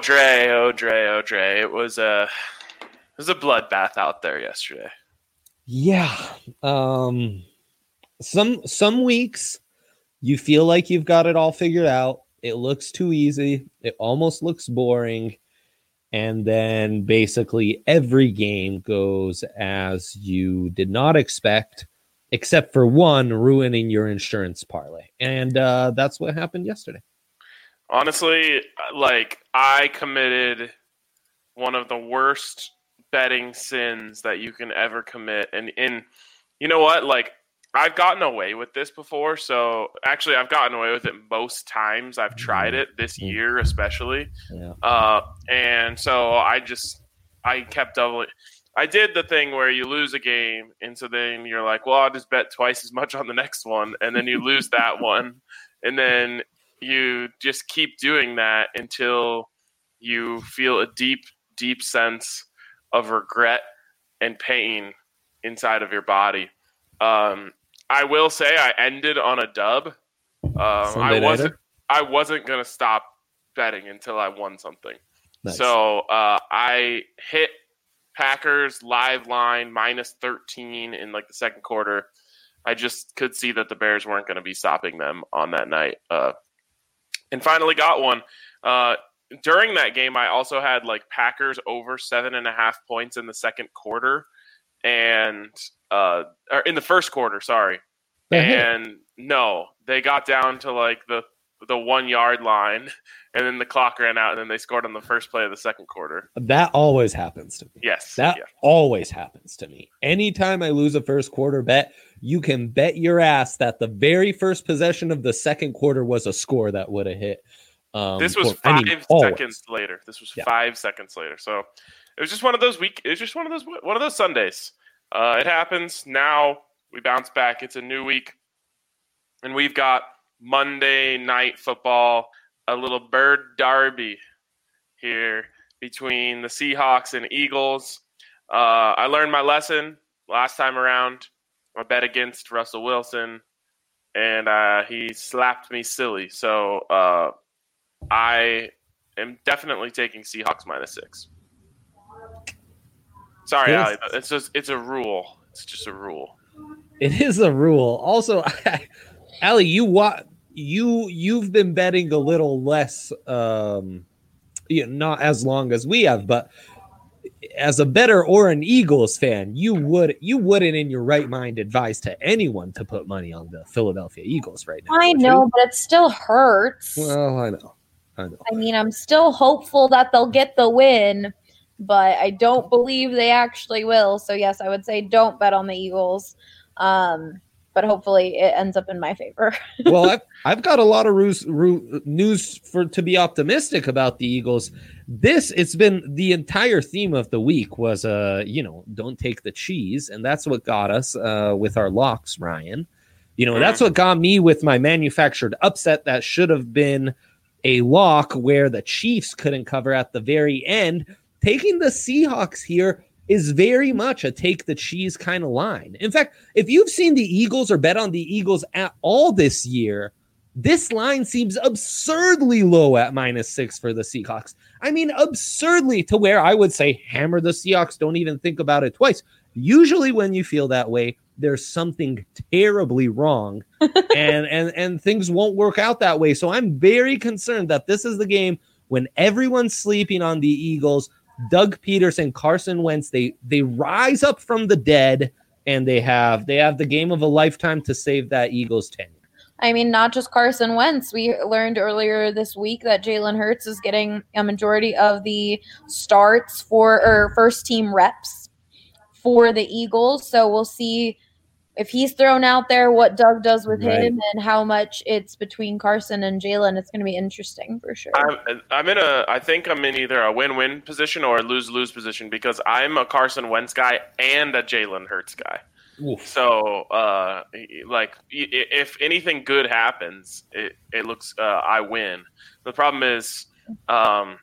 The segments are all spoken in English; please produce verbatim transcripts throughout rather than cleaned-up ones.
Dre, oh Dre, oh Dre. It was a it was a bloodbath out there yesterday. Yeah. Um some some weeks you feel like you've got it all figured out. It looks too easy. It almost looks boring. And then basically every game goes as you did not expect, except for one, ruining your insurance parlay. And uh, that's what happened yesterday. Honestly, like, I committed one of the worst betting sins that you can ever commit. And, and you know what? Like, I've gotten away with this before. So actually, I've gotten away with it most times I've tried it this year, especially. Yeah. Uh, and so I just, I kept doubling. I did the thing where you lose a game. And so then you're like, well, I'll just bet twice as much on the next one. And then you lose that one. And then you just keep doing that until you feel a deep, deep sense of regret and pain inside of your body. Um, I will say I ended on a dub. Um, I wasn't. I wasn't gonna stop betting until I won something. Nice. So uh, I hit Packers live line minus thirteen in like the second quarter. I just could see that the Bears weren't going to be stopping them on that night, uh, and finally got one. Uh, during that game, I also had like Packers over seven and a half points in the second quarter, and. Uh, or in the first quarter, sorry. And no, they got down to like the the one yard line, and then the clock ran out, and then they scored on the first play of the second quarter. That always happens to me. Yes, that yeah. always happens to me. Anytime I lose a first quarter bet, you can bet your ass that the very first possession of the second quarter was a score that would have hit. Um, this was for, five I mean, seconds later. This was yeah. five seconds later. So it was just one of those week. It was just one of those one of those Sundays. Uh, it happens. Now we bounce back. It's a new week. And we've got Monday Night Football, a little bird derby here between the Seahawks and Eagles. Uh, I learned my lesson last time around. I bet against Russell Wilson, and uh, he slapped me silly. So uh, I am definitely taking Seahawks minus six. Sorry, Ali. It's just it's a rule. It's just a rule. It is a rule. Also, Ali, you wa- you you've been betting a little less, um, you know, not as long as we have, but as a bettor or an Eagles fan, you would you wouldn't in your right mind advise to anyone to put money on the Philadelphia Eagles right now. I know, you? But it still hurts. Well, I know, I know. I mean, I'm still hopeful that they'll get the win. But I don't believe they actually will. So, yes, I would say don't bet on the Eagles. Um, but hopefully it ends up in my favor. Well, I've, I've got a lot of ruse, ru- news for to be optimistic about the Eagles. This, it's been the entire theme of the week was, uh, you know, don't take the cheese. And that's what got us uh, with our locks, Ryan. You know, that's what got me with my manufactured upset that should have been a lock where the Chiefs couldn't cover at the very end. Taking the Seahawks here is very much a take the cheese kind of line. In fact, if you've seen the Eagles or bet on the Eagles at all this year, this line seems absurdly low at minus six for the Seahawks. I mean, absurdly to where I would say hammer the Seahawks. Don't even think about it twice. Usually when you feel that way, there's something terribly wrong and, and, and things won't work out that way. So I'm very concerned that this is the game when everyone's sleeping on the Eagles. Doug Peterson, Carson Wentz, they they rise up from the dead, and they have they have the game of a lifetime to save that Eagles tenure. I mean, not just Carson Wentz. We learned earlier this week that Jalen Hurts is getting a majority of the starts for or first team reps for the Eagles. So we'll see if he's thrown out there, what Doug does with right. him, and how much it's between Carson and Jalen. It's going to be interesting for sure. I'm, I'm in a, I think I'm in either a win-win position or a lose-lose position because I'm a Carson Wentz guy and a Jalen Hurts guy. Oof. So, uh, like, if anything good happens, it, it looks uh, I win. The problem is, um,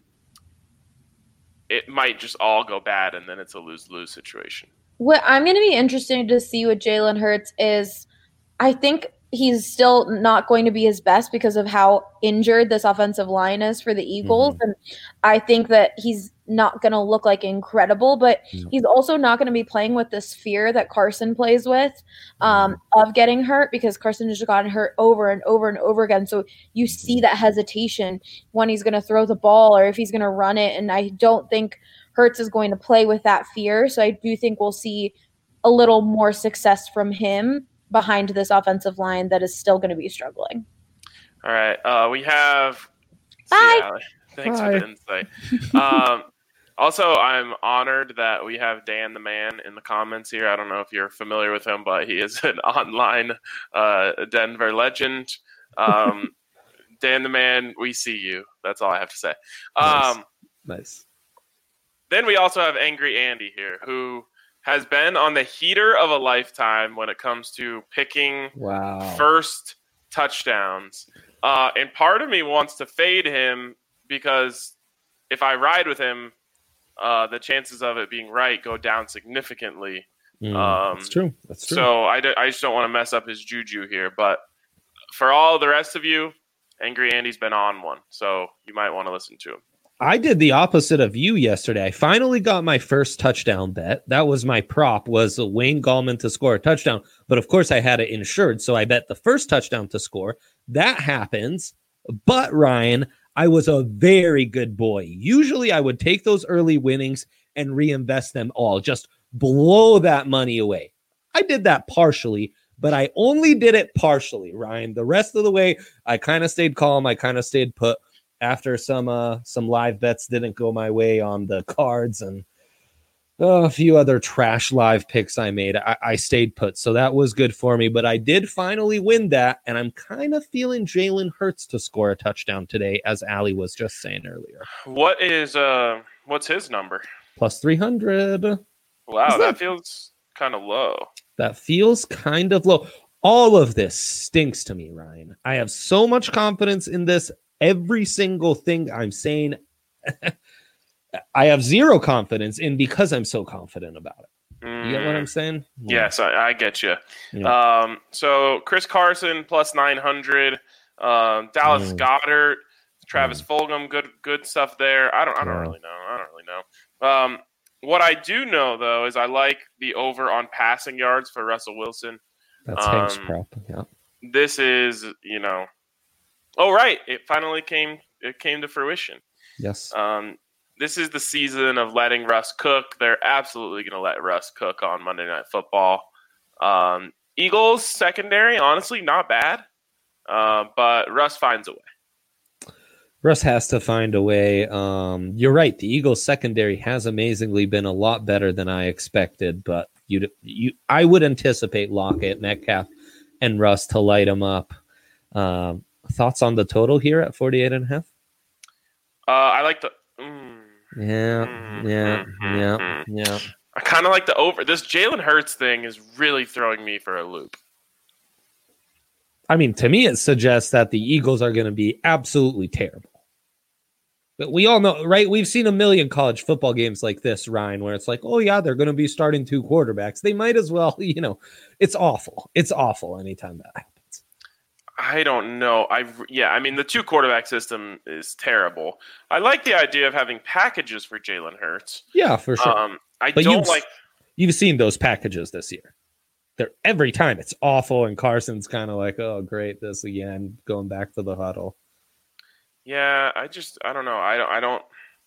it might just all go bad, and then it's a lose-lose situation. What I'm going to be interested to see with Jalen Hurts is, I think he's still not going to be his best because of how injured this offensive line is for the Eagles. Mm-hmm. And I think that he's not going to look like incredible, but mm-hmm. he's also not going to be playing with this fear that Carson plays with um, mm-hmm. of getting hurt, because Carson has gotten hurt over and over and over again. So you see that hesitation when he's going to throw the ball or if he's going to run it. And I don't think Hurts is going to play with that fear. So I do think we'll see a little more success from him behind this offensive line that is still going to be struggling. All right. Uh, we have Bye. Yeah, thanks Bye. for the insight. Um, also, I'm honored that we have Dan the Man in the comments here. I don't know if you're familiar with him, but he is an online uh, Denver legend. Um, Dan the Man, we see you. That's all I have to say. Um, nice. nice. Then we also have Angry Andy here, who has been on the heater of a lifetime when it comes to picking wow. first touchdowns. Uh, and part of me wants to fade him because if I ride with him, uh, the chances of it being right go down significantly. Mm, um, that's true. That's true. So I, d- I just don't want to mess up his juju here. But for all the rest of you, Angry Andy's been on one, so you might want to listen to him. I did the opposite of you yesterday. I finally got my first touchdown bet. That was my prop, was Wayne Gallman to score a touchdown. But of course I had it insured, so I bet the first touchdown to score. That happens. But Ryan, I was a very good boy. Usually I would take those early winnings and reinvest them all. Just blow that money away. I did that partially, but I only did it partially, Ryan. The rest of the way, I kind of stayed calm. I kind of stayed put. After some uh, some live bets didn't go my way on the cards and uh, a few other trash live picks I made, I, I stayed put. So that was good for me. But I did finally win that, and I'm kind of feeling Jalen Hurts to score a touchdown today, as Ali was just saying earlier. What is uh what's his number? Plus three hundred. Wow, that, that feels kind of low. That feels kind of low. All of this stinks to me, Ryan. I have so much confidence in this. Every single thing I'm saying, I have zero confidence in because I'm so confident about it. You get what I'm saying? Yeah. Yes, I, I get you. Yeah. Um, so Chris Carson plus nine hundred, um, Dallas mm. Goedert, Travis mm. Fulgham, good good stuff there. I don't I don't yeah. really know. I don't really know. Um, what I do know though is I like the over on passing yards for Russell Wilson. That's um, Hank's prop. Yeah. This is you know. Oh, right. It finally came it came to fruition. Yes. Um, this is the season of letting Russ cook. They're absolutely going to let Russ cook on Monday Night Football. Um, Eagles secondary, honestly, not bad. Uh, but Russ finds a way. Russ has to find a way. Um, you're right. The Eagles secondary has amazingly been a lot better than I expected. But you, you, I would anticipate Lockett, Metcalf, and Russ to light them up. Um, Thoughts on the total here at forty-eight and a half? Uh, I like the. Mm, yeah, mm, yeah, mm, yeah, mm. yeah. I kind of like the over. This Jalen Hurts thing is really throwing me for a loop. I mean, to me, it suggests that the Eagles are going to be absolutely terrible. But we all know, right? We've seen a million college football games like this, Ryan, where it's like, oh, yeah, they're going to be starting two quarterbacks. They might as well, you know, it's awful. It's awful anytime that happens. I don't know. I yeah. I mean, the two quarterback system is terrible. I like the idea of having packages for Jalen Hurts. Yeah, for sure. Um, I but don't you've, like. You've seen those packages this year. They're every time it's awful, and Carson's kind of like, "Oh, great, this again." Going back to the huddle. Yeah, I just I don't know. I don't. I don't.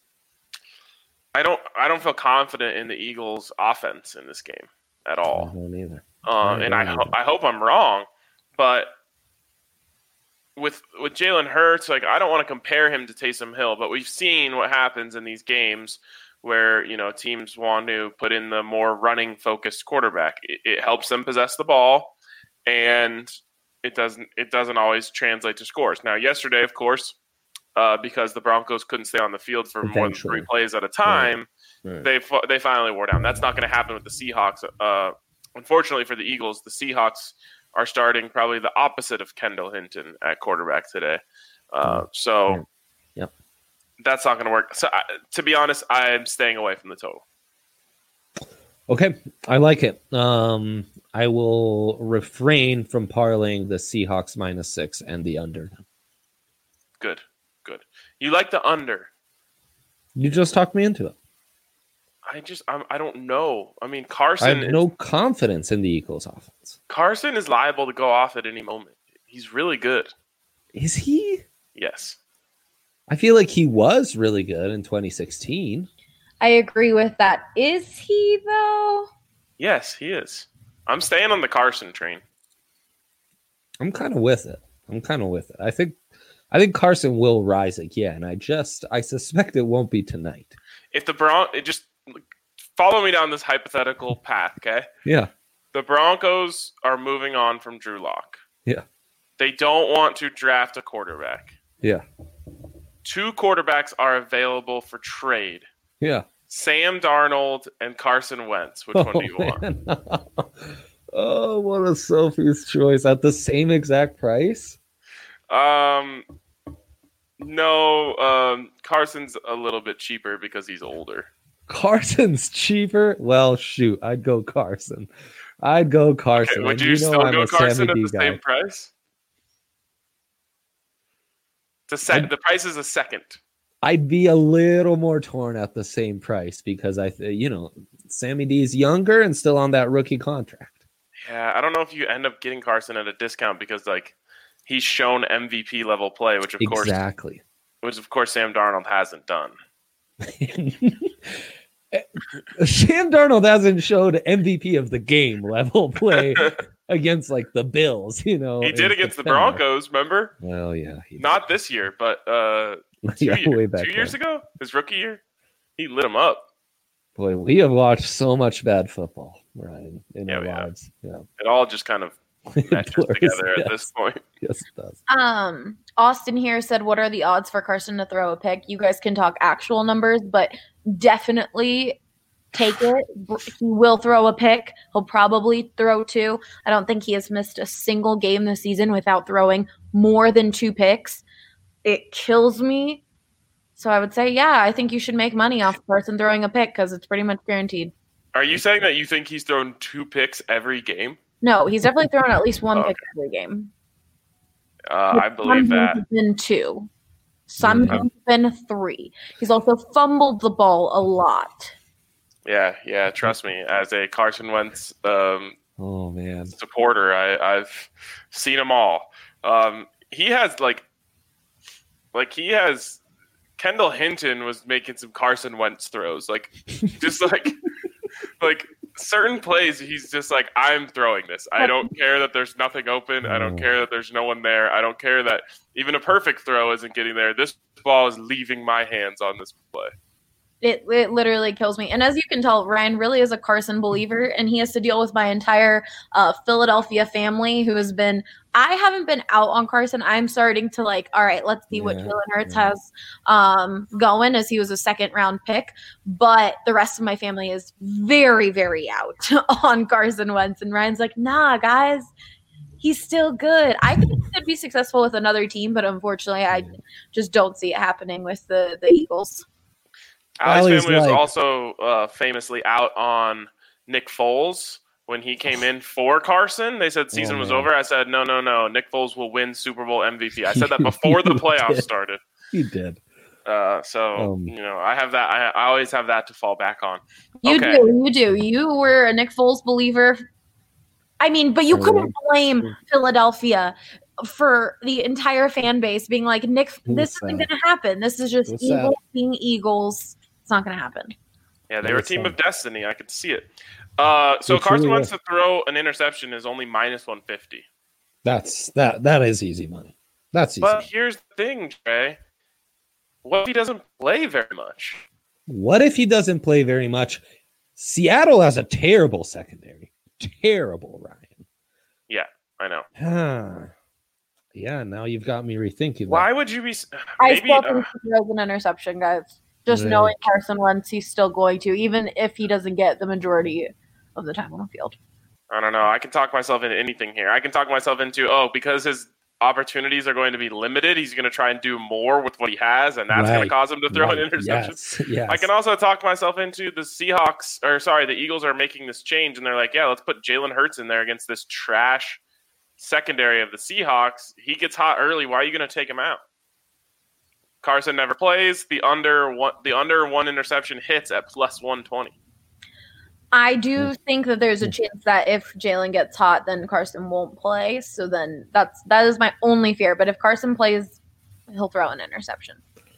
I don't. I don't feel confident in the Eagles' offense in this game at all. I don't either. Um, I and I ho- I hope I'm wrong, but. With with Jalen Hurts, like I don't want to compare him to Taysom Hill, but we've seen what happens in these games where you know teams want to put in the more running focused quarterback. It, it helps them possess the ball, and it doesn't it doesn't always translate to scores. Now, yesterday, of course, uh, because the Broncos couldn't stay on the field for more than three plays at a time, right. Right. they they finally wore down. That's not going to happen with the Seahawks. Uh, unfortunately for the Eagles, the Seahawks are starting probably the opposite of Kendall Hinton at quarterback today. Uh, so yep. that's not going to work. So I, to be honest, I'm staying away from the total. Okay, I like it. Um, I will refrain from parlaying the Seahawks minus six and the under. Good, good. You like the under. You just talked me into it. I just I'm, I don't know. I mean, I Carson. have is, no confidence in the Eagles' offense. Carson is liable to go off at any moment. He's really good. Is he? Yes. I feel like he was really good in twenty sixteen. I agree with that. Is he though? Yes, he is. I'm staying on the Carson train. I'm kind of with it. I'm kind of with it. I think I think Carson will rise again. I just I suspect it won't be tonight. If the Bron, it just follow me down this hypothetical path, okay? Yeah. The Broncos are moving on from Drew Lock. Yeah. They don't want to draft a quarterback. Yeah. Two quarterbacks are available for trade. Yeah. Sam Darnold and Carson Wentz. Which oh, one do you want? Man. Oh, what a Sophie's choice at the same exact price. Um, no, um, Carson's a little bit cheaper because he's older. Carson's cheaper? Well, shoot, I'd go Carson. I'd go Carson. Okay, would you, you still know go Carson at the guy. same price? It's a sec- the price is a second. I'd be a little more torn at the same price because I, th- you know, Sammy D is younger and still on that rookie contract. Yeah, I don't know if you end up getting Carson at a discount because like he's shown M V P level play, which of course exactly, which of course Sam Darnold hasn't done. Sam Darnold hasn't showed M V P of the game level play against like the Bills. You know, he did against September. the Broncos. Remember? Well, yeah, not this year, but uh, two, yeah, year, way back two years then. ago, his rookie year, he lit him up. Boy, we have watched so much bad football, Ryan, in yeah, our yeah. lives. Yeah, it all just kind of matches blurs, together yes. at this point. Yes, it does. Um, Austin here said, "What are the odds for Carson to throw a pick?" You guys can talk actual numbers, but definitely take it. He will throw a pick. He'll probably throw two. I don't think he has missed a single game this season without throwing more than two picks. It kills me. So I would say, yeah, I think you should make money off Carson throwing a pick because it's pretty much guaranteed. Are you saying that you think he's thrown two picks every game? No, he's definitely thrown at least one oh, pick every game. Uh, I believe that. Some been two. Some mm-hmm. been three. He's also fumbled the ball a lot. Yeah, yeah. Trust me, as a Carson Wentz um, oh man supporter, I, I've seen them all. Um, he has like, like he has. Kendall Hinton was making some Carson Wentz throws, like just like, like certain plays. He's just like, I'm throwing this. I don't care that there's nothing open. I don't care that there's no one there. I don't care that even a perfect throw isn't getting there. This ball is leaving my hands on this play. It it literally kills me. And as you can tell, Ryan really is a Carson believer, and he has to deal with my entire uh, Philadelphia family who has been – I haven't been out on Carson. I'm starting to like, all right, let's see yeah, what Jalen Hurts yeah. has um, going as he was a second-round pick. But the rest of my family is very, very out on Carson Wentz. And Ryan's like, nah, guys, he's still good. I think he could be successful with another team, but unfortunately I just don't see it happening with the, the Eagles. Ali's family was like, also uh, famously out on Nick Foles when he came in for Carson. They said season oh, was over. I said, no, no, no. Nick Foles will win Super Bowl M V P. I said that before the playoffs did. started. He did. Uh, so, um, you know, I have that. I, I always have that to fall back on. You okay. do. You do. You were a Nick Foles believer. I mean, but you oh, couldn't blame yeah. Philadelphia for the entire fan base being like, Nick, this isn't going to happen. This is just What's Eagles that? being Eagles. It's not going to happen. Yeah, they were a team of destiny. I could see it. Uh, so it Carson wants to throw an interception is only minus one fifty. That's that. That is easy money. That's easy. But here's the thing, Trey. What if he doesn't play very much? What if he doesn't play very much? Seattle has a terrible secondary. Terrible, Ryan. Yeah, I know. Ah, yeah, now you've got me rethinking. Why that. would you be? I maybe, still think uh, he throws an interception, guys. Just yeah. knowing Carson Wentz, he's still going to, even if he doesn't get the majority of the time on the field. I don't know. I can talk myself into anything here. I can talk myself into, oh, because his opportunities are going to be limited. He's going to try and do more with what he has, and that's Right. going to cause him to throw Right. an interception. Yes. Yes. I can also talk myself into the Seahawks, or sorry, the Eagles are making this change, and they're like, yeah, let's put Jalen Hurts in there against this trash secondary of the Seahawks. He gets hot early. Why are you going to take him out? Carson never plays. The under one, the under one interception hits at plus one twenty. I do think that there's a chance that if Jalen gets hot, then Carson won't play. So then that's that is my only fear. But if Carson plays, he'll throw an interception.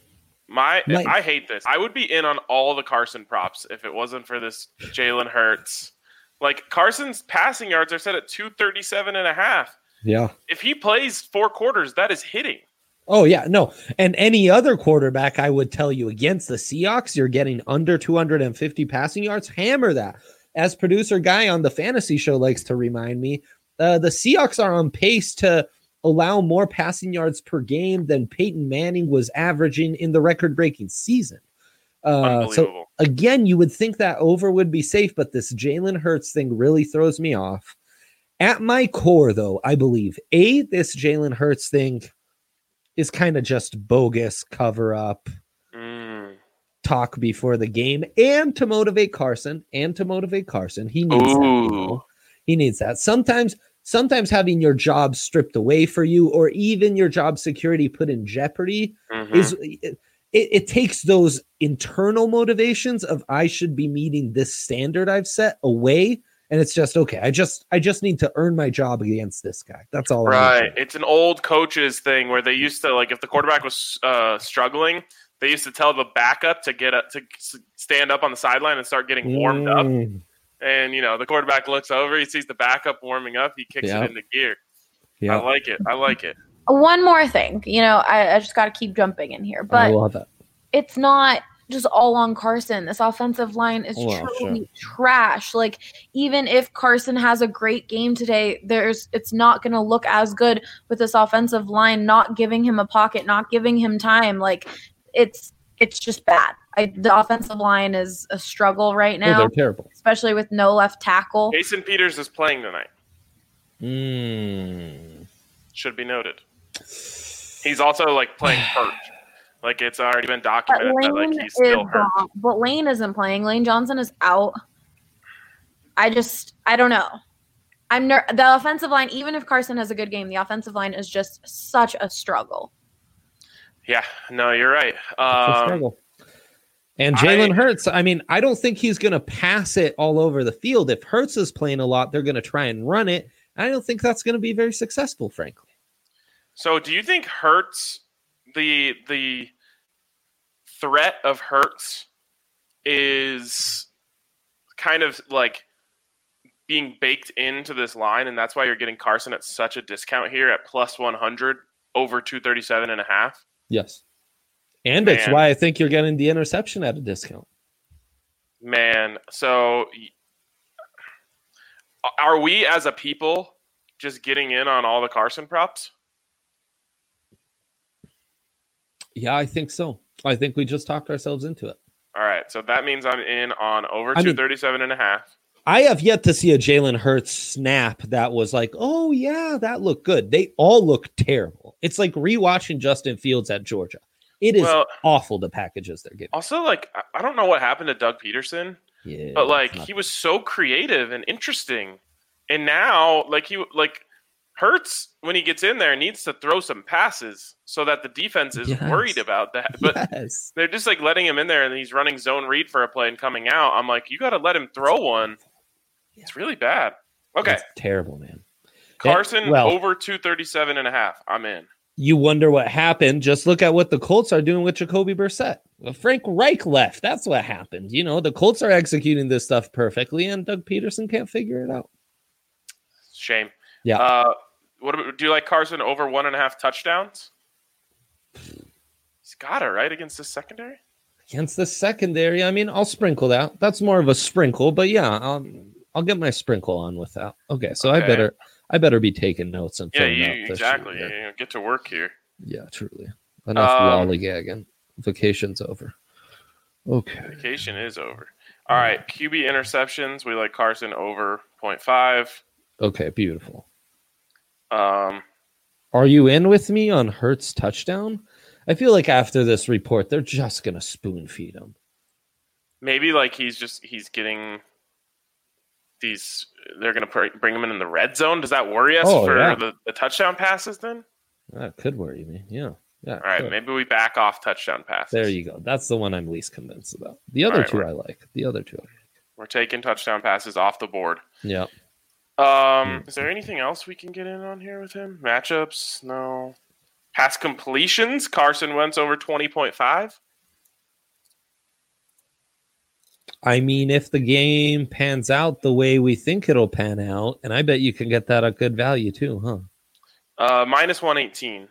My, Like- I hate this. I would be in on all the Carson props if it wasn't for this Jalen Hurts. Like, Carson's passing yards are set at two thirty-seven and a half. Yeah. If he plays four quarters, that is hitting. Oh, yeah. No. And any other quarterback, I would tell you against the Seahawks, you're getting under two hundred fifty passing yards. Hammer that. As producer Guy on the fantasy show likes to remind me, uh, the Seahawks are on pace to allow more passing yards per game than Peyton Manning was averaging in the record-breaking season. Uh, so, Unbelievable. again, you would think that over would be safe, but this Jalen Hurts thing really throws me off. At my core, though, I believe, A, this Jalen Hurts thing is kind of just bogus cover up Mm. talk before the game, and to motivate Carson and to motivate Carson. He needs that. You know? He needs that. Sometimes, sometimes having your job stripped away for you, or even your job security put in jeopardy, Mhm. is it, it takes those internal motivations of I should be meeting this standard I've set away. And it's just, okay, I just I just need to earn my job against this guy. That's all. I need Right. to- It's an old coaches thing where they used to, like, if the quarterback was uh, struggling, they used to tell the backup to get up, to s- stand up on the sideline and start getting warmed up. Mm, And, you know, the quarterback looks over, he sees the backup warming up, he kicks Yeah. it into gear. yeah, I like it. I like it. One more thing, you know, I, I just got to keep jumping in here, I but love it. it's not just all on Carson. This offensive line is Well, truly trash. Like, even if Carson has a great game today, there's it's not going to look as good with this offensive line not giving him a pocket, not giving him time. Like, it's it's just bad. I, the offensive line is a struggle right Oh, now, they're terrible. especially with no left tackle. Jason Peters is playing tonight. Mm. Should be noted. He's also, like, playing hurt. Like, it's already been But documented that, Lane like, he's is still hurt. gone. But Lane isn't playing. Lane Johnson is out. I just, I don't know. I'm ner- the offensive line. Even if Carson has a good game, the offensive line is just such a struggle. Yeah, no, you're right. It's a Um, struggle. And Jalen I- Hurts, I mean, I don't think he's going to pass it all over the field. If Hurts is playing a lot, they're going to try and run it. I don't think that's going to be very successful, frankly. So, do you think Hurts, the the threat of Hurts, is kind of like being baked into this line, and that's why you're getting Carson at such a discount here at plus one hundred over two thirty-seven and a half? Yes. And it's Man. why I think you're getting the interception at a discount. Man, so y- are we as a people just getting in on all the Carson props? Yeah, I think so. I think we just talked ourselves into it. All right, so that means I'm in on over I mean- two thirty-seven and a half. I have yet to see a Jalen Hurts snap that was like, oh, yeah, that looked good. They all look terrible. It's like rewatching Justin Fields at Georgia. It is Well, awful, the packages they're giving. also, like, I- I don't know what happened to Doug Peterson. Yeah, But like it's not- he was so creative and interesting, and now like he like Hurts when he gets in there needs to throw some passes so that the defense is Yes. worried about that. But yes. they're just like letting him in there, and he's running zone read for a play and coming out. I'm like, you got to let him throw one. It's really bad. Okay, It's terrible, man. Carson well- over two thirty-seven and a half. I'm in. You wonder what happened. Just look at what the Colts are doing with Jacoby Brissett. Well, Frank Reich left. That's what happened. You know, the Colts are executing this stuff perfectly, and Doug Peterson can't figure it out. Shame. Yeah. Uh, what about, do you like Carson over one and a half touchdowns? He's got it right against the secondary. Against the secondary, I mean, I'll sprinkle that. That's more of a sprinkle, but yeah, I'll, I'll get my sprinkle on with that. Okay, so I Okay. better I better be taking notes and Yeah, filling you, out this exactly. sheet here. You get to work here. Yeah, truly. Enough Um, lollygagging. Vacation's over. Okay. Vacation is over. All right, Q B interceptions. We like Carson over point five. Okay, beautiful. Um, Are you in with me on Hurts touchdown? I feel like after this report, they're just gonna spoon feed him. Maybe like he's just he's getting these. They're gonna pr- bring him in in the red zone. Does that worry us Oh, for yeah. the, the touchdown passes then? That could worry me. Yeah. Yeah. All right, could. maybe we back off touchdown passes. There you go. That's the one I'm least convinced about. The other All right, two we're- I like. The other two I like. We're taking touchdown passes off the board. Yeah. Um, is there anything else we can get in on here with him? Matchups? No. Pass completions? Carson Wentz over twenty point five? I mean, if the game pans out the way we think it'll pan out, and I bet you can get that at good value too, huh? Uh, minus one eighteen.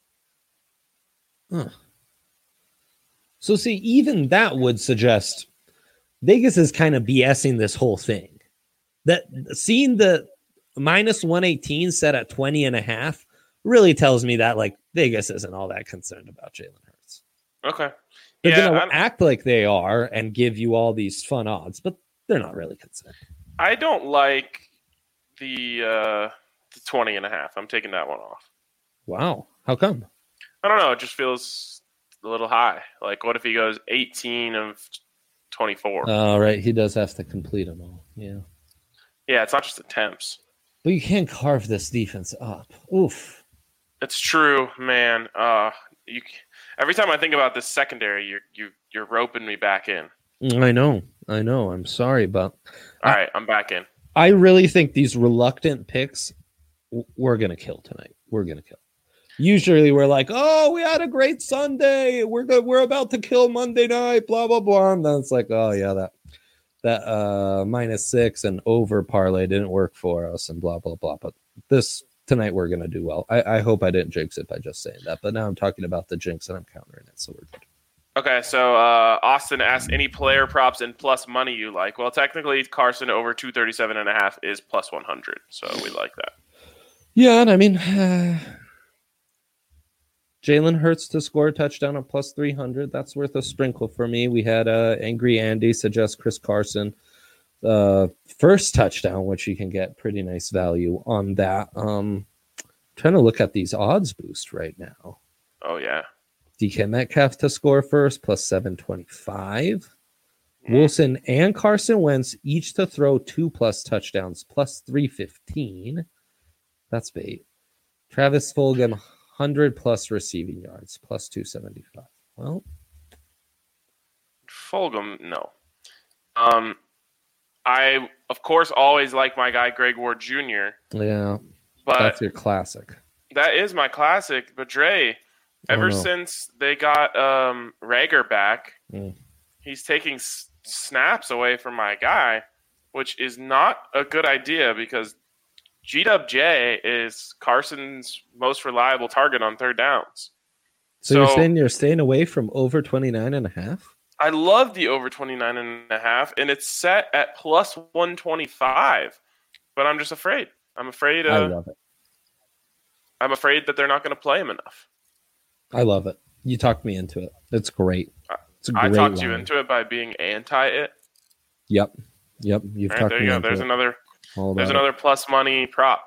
Huh. So see, even that would suggest Vegas is kind of BSing this whole thing. That seeing the minus one eighteen set at twenty and a half really tells me that like Vegas isn't all that concerned about Jalen Hurts. Okay. They're Yeah, going I- to act like they are and give you all these fun odds, but they're not really concerned. I don't like the, uh, the twenty and a half. I'm taking that one off. Wow. How come? I don't know. It just feels a little high. Like, what if he goes eighteen of twenty-four? All right. He does have to complete them all. Yeah. Yeah, it's not just attempts. But you can't carve this defense up. Oof. It's true, man. Uh, you every time I think about this secondary, you're you you're roping me back in. I know. I know. I'm sorry, but All I- right, I'm back in. I really think these reluctant picks w- we're going to kill tonight. We're going to kill. Usually we're like, oh, we had a great Sunday. We're good. We're about to kill Monday night, blah, blah, blah. And then it's like, oh, yeah, that that uh, minus six and over parlay didn't work for us and blah, blah, blah. But this tonight we're going to do well. I, I hope I didn't jinx it by just saying that. But now I'm talking about the jinx and I'm countering it. So we're good. Okay, so uh, Austin asked any player props and plus money you like. Well, technically, Carson over two thirty-seven and a half is plus one hundred, so we like that. Yeah, and I mean, uh, Jalen Hurts to score a touchdown at plus three hundred. That's worth a sprinkle for me. We had uh, Angry Andy suggest Chris Carson uh, first touchdown, which you can get pretty nice value on that. Um, trying to look at these odds boost right now. Oh, yeah. D K Metcalf to score first, plus seven twenty-five. Wilson and Carson Wentz each to throw two plus touchdowns, plus three fifteen. That's bait. Travis Fulgham, one hundred plus receiving yards, plus two seventy-five. Well, Fulgham, no. Um, I, of course, always like my guy Greg Ward Junior, yeah, but that's your classic. that is my classic. But Dre, ever no. since they got um, Rager back, Mm. he's taking s- snaps away from my guy, which is not a good idea because G W J is Carson's most reliable target on third downs. So, you're So- saying you're staying away from over twenty-nine and a half? I love the over twenty-nine and a half, and it's set at plus one twenty-five, but I'm just afraid. I'm afraid. I Uh, love it. I'm afraid that they're not going to play him enough. I love it. You talked me into it. It's great. It's a I great talked you line. into it by being anti it. Yep. Yep. You've All right, talked there me you go. into There's it. another. All There's about it. another plus money prop.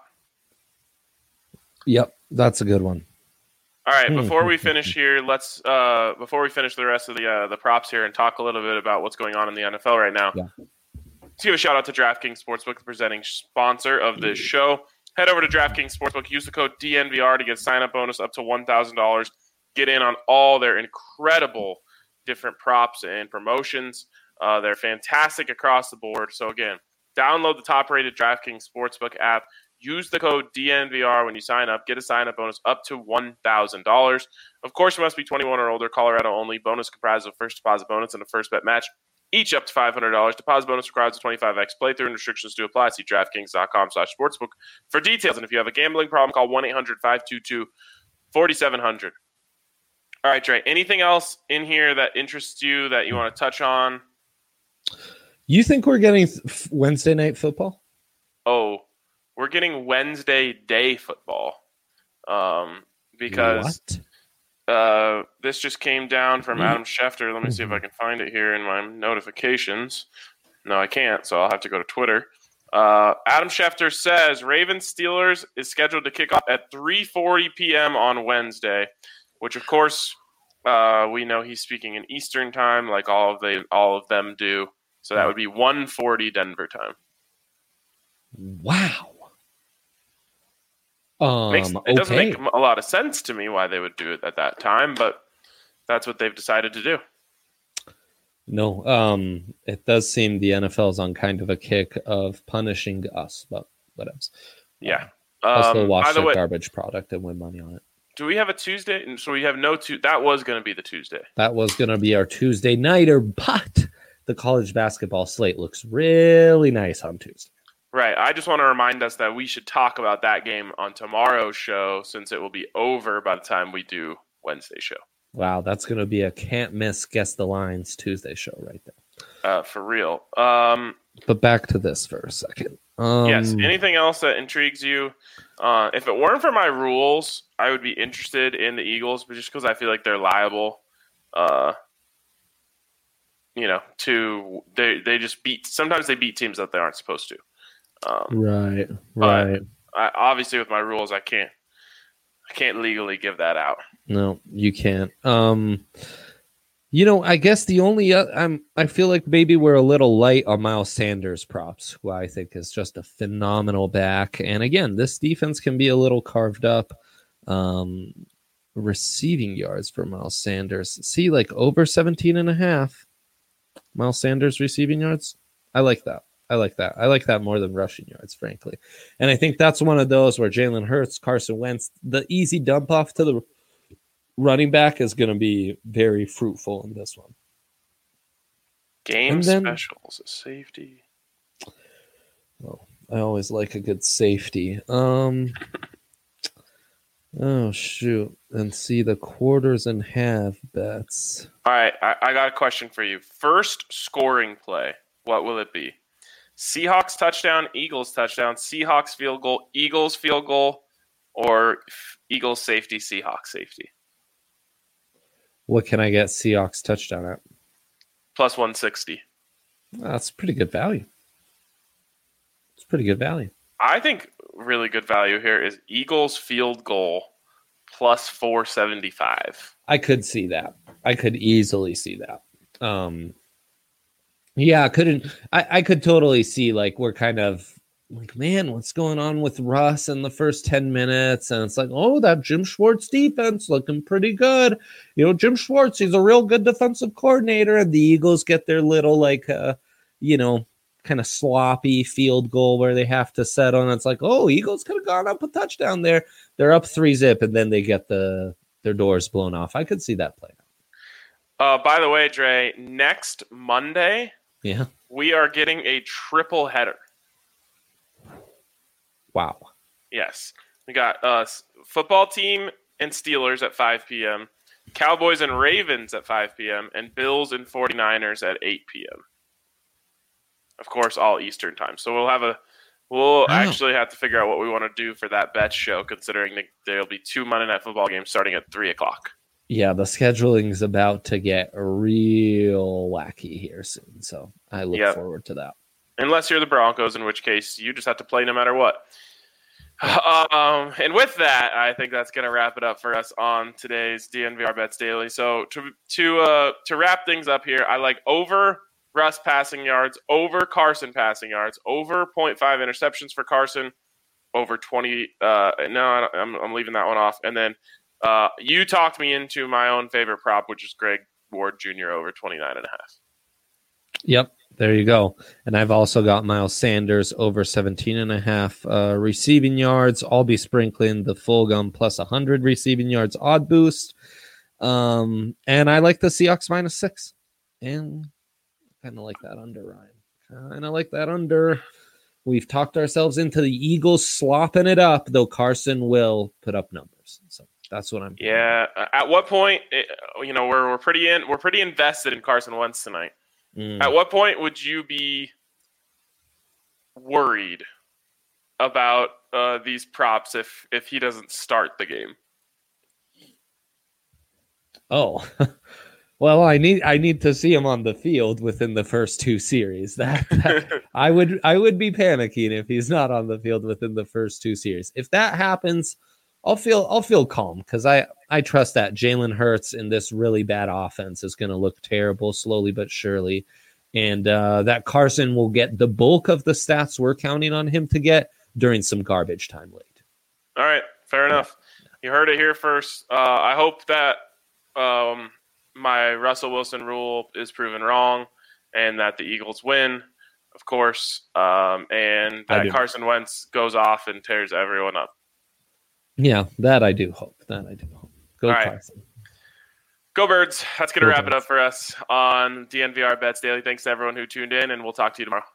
Yep. That's a good one. All right, Hmm. before we finish here, let's uh, before we finish the rest of the uh, the props here and talk a little bit about what's going on in the N F L right now. Yeah. Let's give a shout out to DraftKings Sportsbook, the presenting sponsor of this show. Head over to DraftKings Sportsbook, use the code D N V R to get sign up bonus up to one thousand dollars. Get in on all their incredible different props and promotions. Uh, they're fantastic across the board. So again, download the top-rated DraftKings Sportsbook app. Use the code D N V R when you sign up. Get a sign-up bonus up to one thousand dollars. Of course, you must be twenty-one or older. Colorado only. Bonus comprised of first deposit bonus and a first bet match, each up to five hundred dollars. Deposit bonus requires a twenty-five x playthrough and restrictions to apply. See DraftKings.com slash sportsbook for details. And if you have a gambling problem, call one eight hundred five two two four seven zero zero. All right, Trey. Anything else in here that interests you that you want to touch on? You think we're getting th- Wednesday night football? Oh, we're getting Wednesday day football um, because What? uh, this just came down from Adam Schefter. Let me see if I can find it here in my notifications. No, I can't, so I'll have to go to Twitter. Uh, Adam Schefter says Ravens Steelers is scheduled to kick off at three forty p.m. on Wednesday, which of course uh, we know he's speaking in Eastern time, like all of they all of them do. So that would be one forty Denver time. Wow. Um, Makes, it okay. doesn't make a lot of sense to me why they would do it at that time, but that's what they've decided to do. No, um, it does seem the N F L is on kind of a kick of punishing us, but what else? Yeah. Um, I'll still Um, watch by the their way, garbage product and win money on it. do we have a Tuesday? And so we have no two. That was going to be the Tuesday. That was going to be our Tuesday nighter, but the college basketball slate looks really nice on Tuesday. Right. I just want to remind us that we should talk about that game on tomorrow's show since it will be over by the time we do Wednesday's show. Wow, that's going to be a can't miss Guess the Lines Tuesday show right there. Uh, for real. Um, but back to this for a second. Um, yes. Anything else that intrigues you? Uh, if it weren't for my rules, I would be interested in the Eagles, but just because I feel like they're liable, uh, you know, to they they just beat. Sometimes they beat teams that they aren't supposed to. Um, right. Right. I, obviously, with my rules, I can't. I can't legally give that out. No, you can't. Um, you know, I guess the only uh, I'm I feel like maybe we're a little light on Miles Sanders props, who I think is just a phenomenal back. And again, this defense can be a little carved up. Um, receiving yards for Miles Sanders. See, like over seventeen and a half. Miles Sanders receiving yards. I like that. I like that. I like that more than rushing yards, frankly. And I think that's one of those where Jalen Hurts, Carson Wentz, the easy dump off to the running back is going to be very fruitful in this one. Game then, specials, a safety. Well, I always like a good safety. Um, oh, shoot. And see the quarters and half bets. All right. I, I got a question for you. First scoring play, what will it be? Seahawks touchdown, Eagles touchdown, Seahawks field goal, Eagles field goal, or Eagles safety, Seahawks safety? What can I get Seahawks touchdown at? Plus one sixty. That's pretty good value. It's pretty good value. I think really good value here is Eagles field goal plus four seventy-five. I could see that. I could easily see that. Um, Yeah, I couldn't. I, I could totally see like we're kind of like, man, what's going on with Russ in the first ten minutes? And it's like, oh, that Jim Schwartz defense looking pretty good. You know, Jim Schwartz, he's a real good defensive coordinator. And the Eagles get their little like, uh, you know, kind of sloppy field goal where they have to settle. And it's like, oh, Eagles could have gone up a touchdown there. They're up three zip, and then they get the their doors blown off. I could see that play. Uh, by the way, Dre, next Monday. Yeah. We are getting a triple header. Wow. Yes. We got uh, football team and Steelers at five p.m., Cowboys and Ravens at five p.m., and Bills and 49ers at eight p.m. Of course, all Eastern time. So we'll have a we'll oh. actually have to figure out what we want to do for that bet show, considering there'll be two Monday Night Football games starting at three o'clock. Yeah, the scheduling is about to get real wacky here soon, so I look yep. forward to that. Unless you're the Broncos, in which case you just have to play no matter what. Um, and with that, I think that's going to wrap it up for us on today's D N V R Bets Daily. So to to uh, to wrap things up here, I like over Russ passing yards, over Carson passing yards, over zero point five interceptions for Carson, over twenty. Uh, no, I'm I'm leaving that one off, and then. Uh, you talked me into my own favorite prop, which is Greg Ward Junior over twenty-nine and a half. Yep, there you go. And I've also got Miles Sanders over seventeen and a half uh, receiving yards. I'll be sprinkling the full gum plus one hundred receiving yards odd boost. Um, and I like the Seahawks minus six. And kind of like that under, Ryan. Kind of like that under. We've talked ourselves into the Eagles slopping it up, though Carson will put up numbers. So. That's what I'm doing. Yeah. At what point, you know, we're we're pretty in we're pretty invested in Carson Wentz tonight. Mm. At what point would you be worried about uh, these props if if he doesn't start the game? Oh, Well, I need I need to see him on the field within the first two series. That, that I would I would be panicking if he's not on the field within the first two series. If that happens, I'll feel I'll feel calm because I I trust that Jalen Hurts in this really bad offense is going to look terrible slowly but surely, and uh, that Carson will get the bulk of the stats we're counting on him to get during some garbage time late. All right, fair enough. You heard it here first. Uh, I hope that. Um, my Russell Wilson rule is proven wrong and that the Eagles win, of course, um, and that Carson Wentz goes off and tears everyone up. Yeah, that I do hope. That I do hope. Go right. Carson. Go Birds. That's going to wrap Birds. It up for us on D N V R Bets Daily. Thanks to everyone who tuned in, and we'll talk to you tomorrow.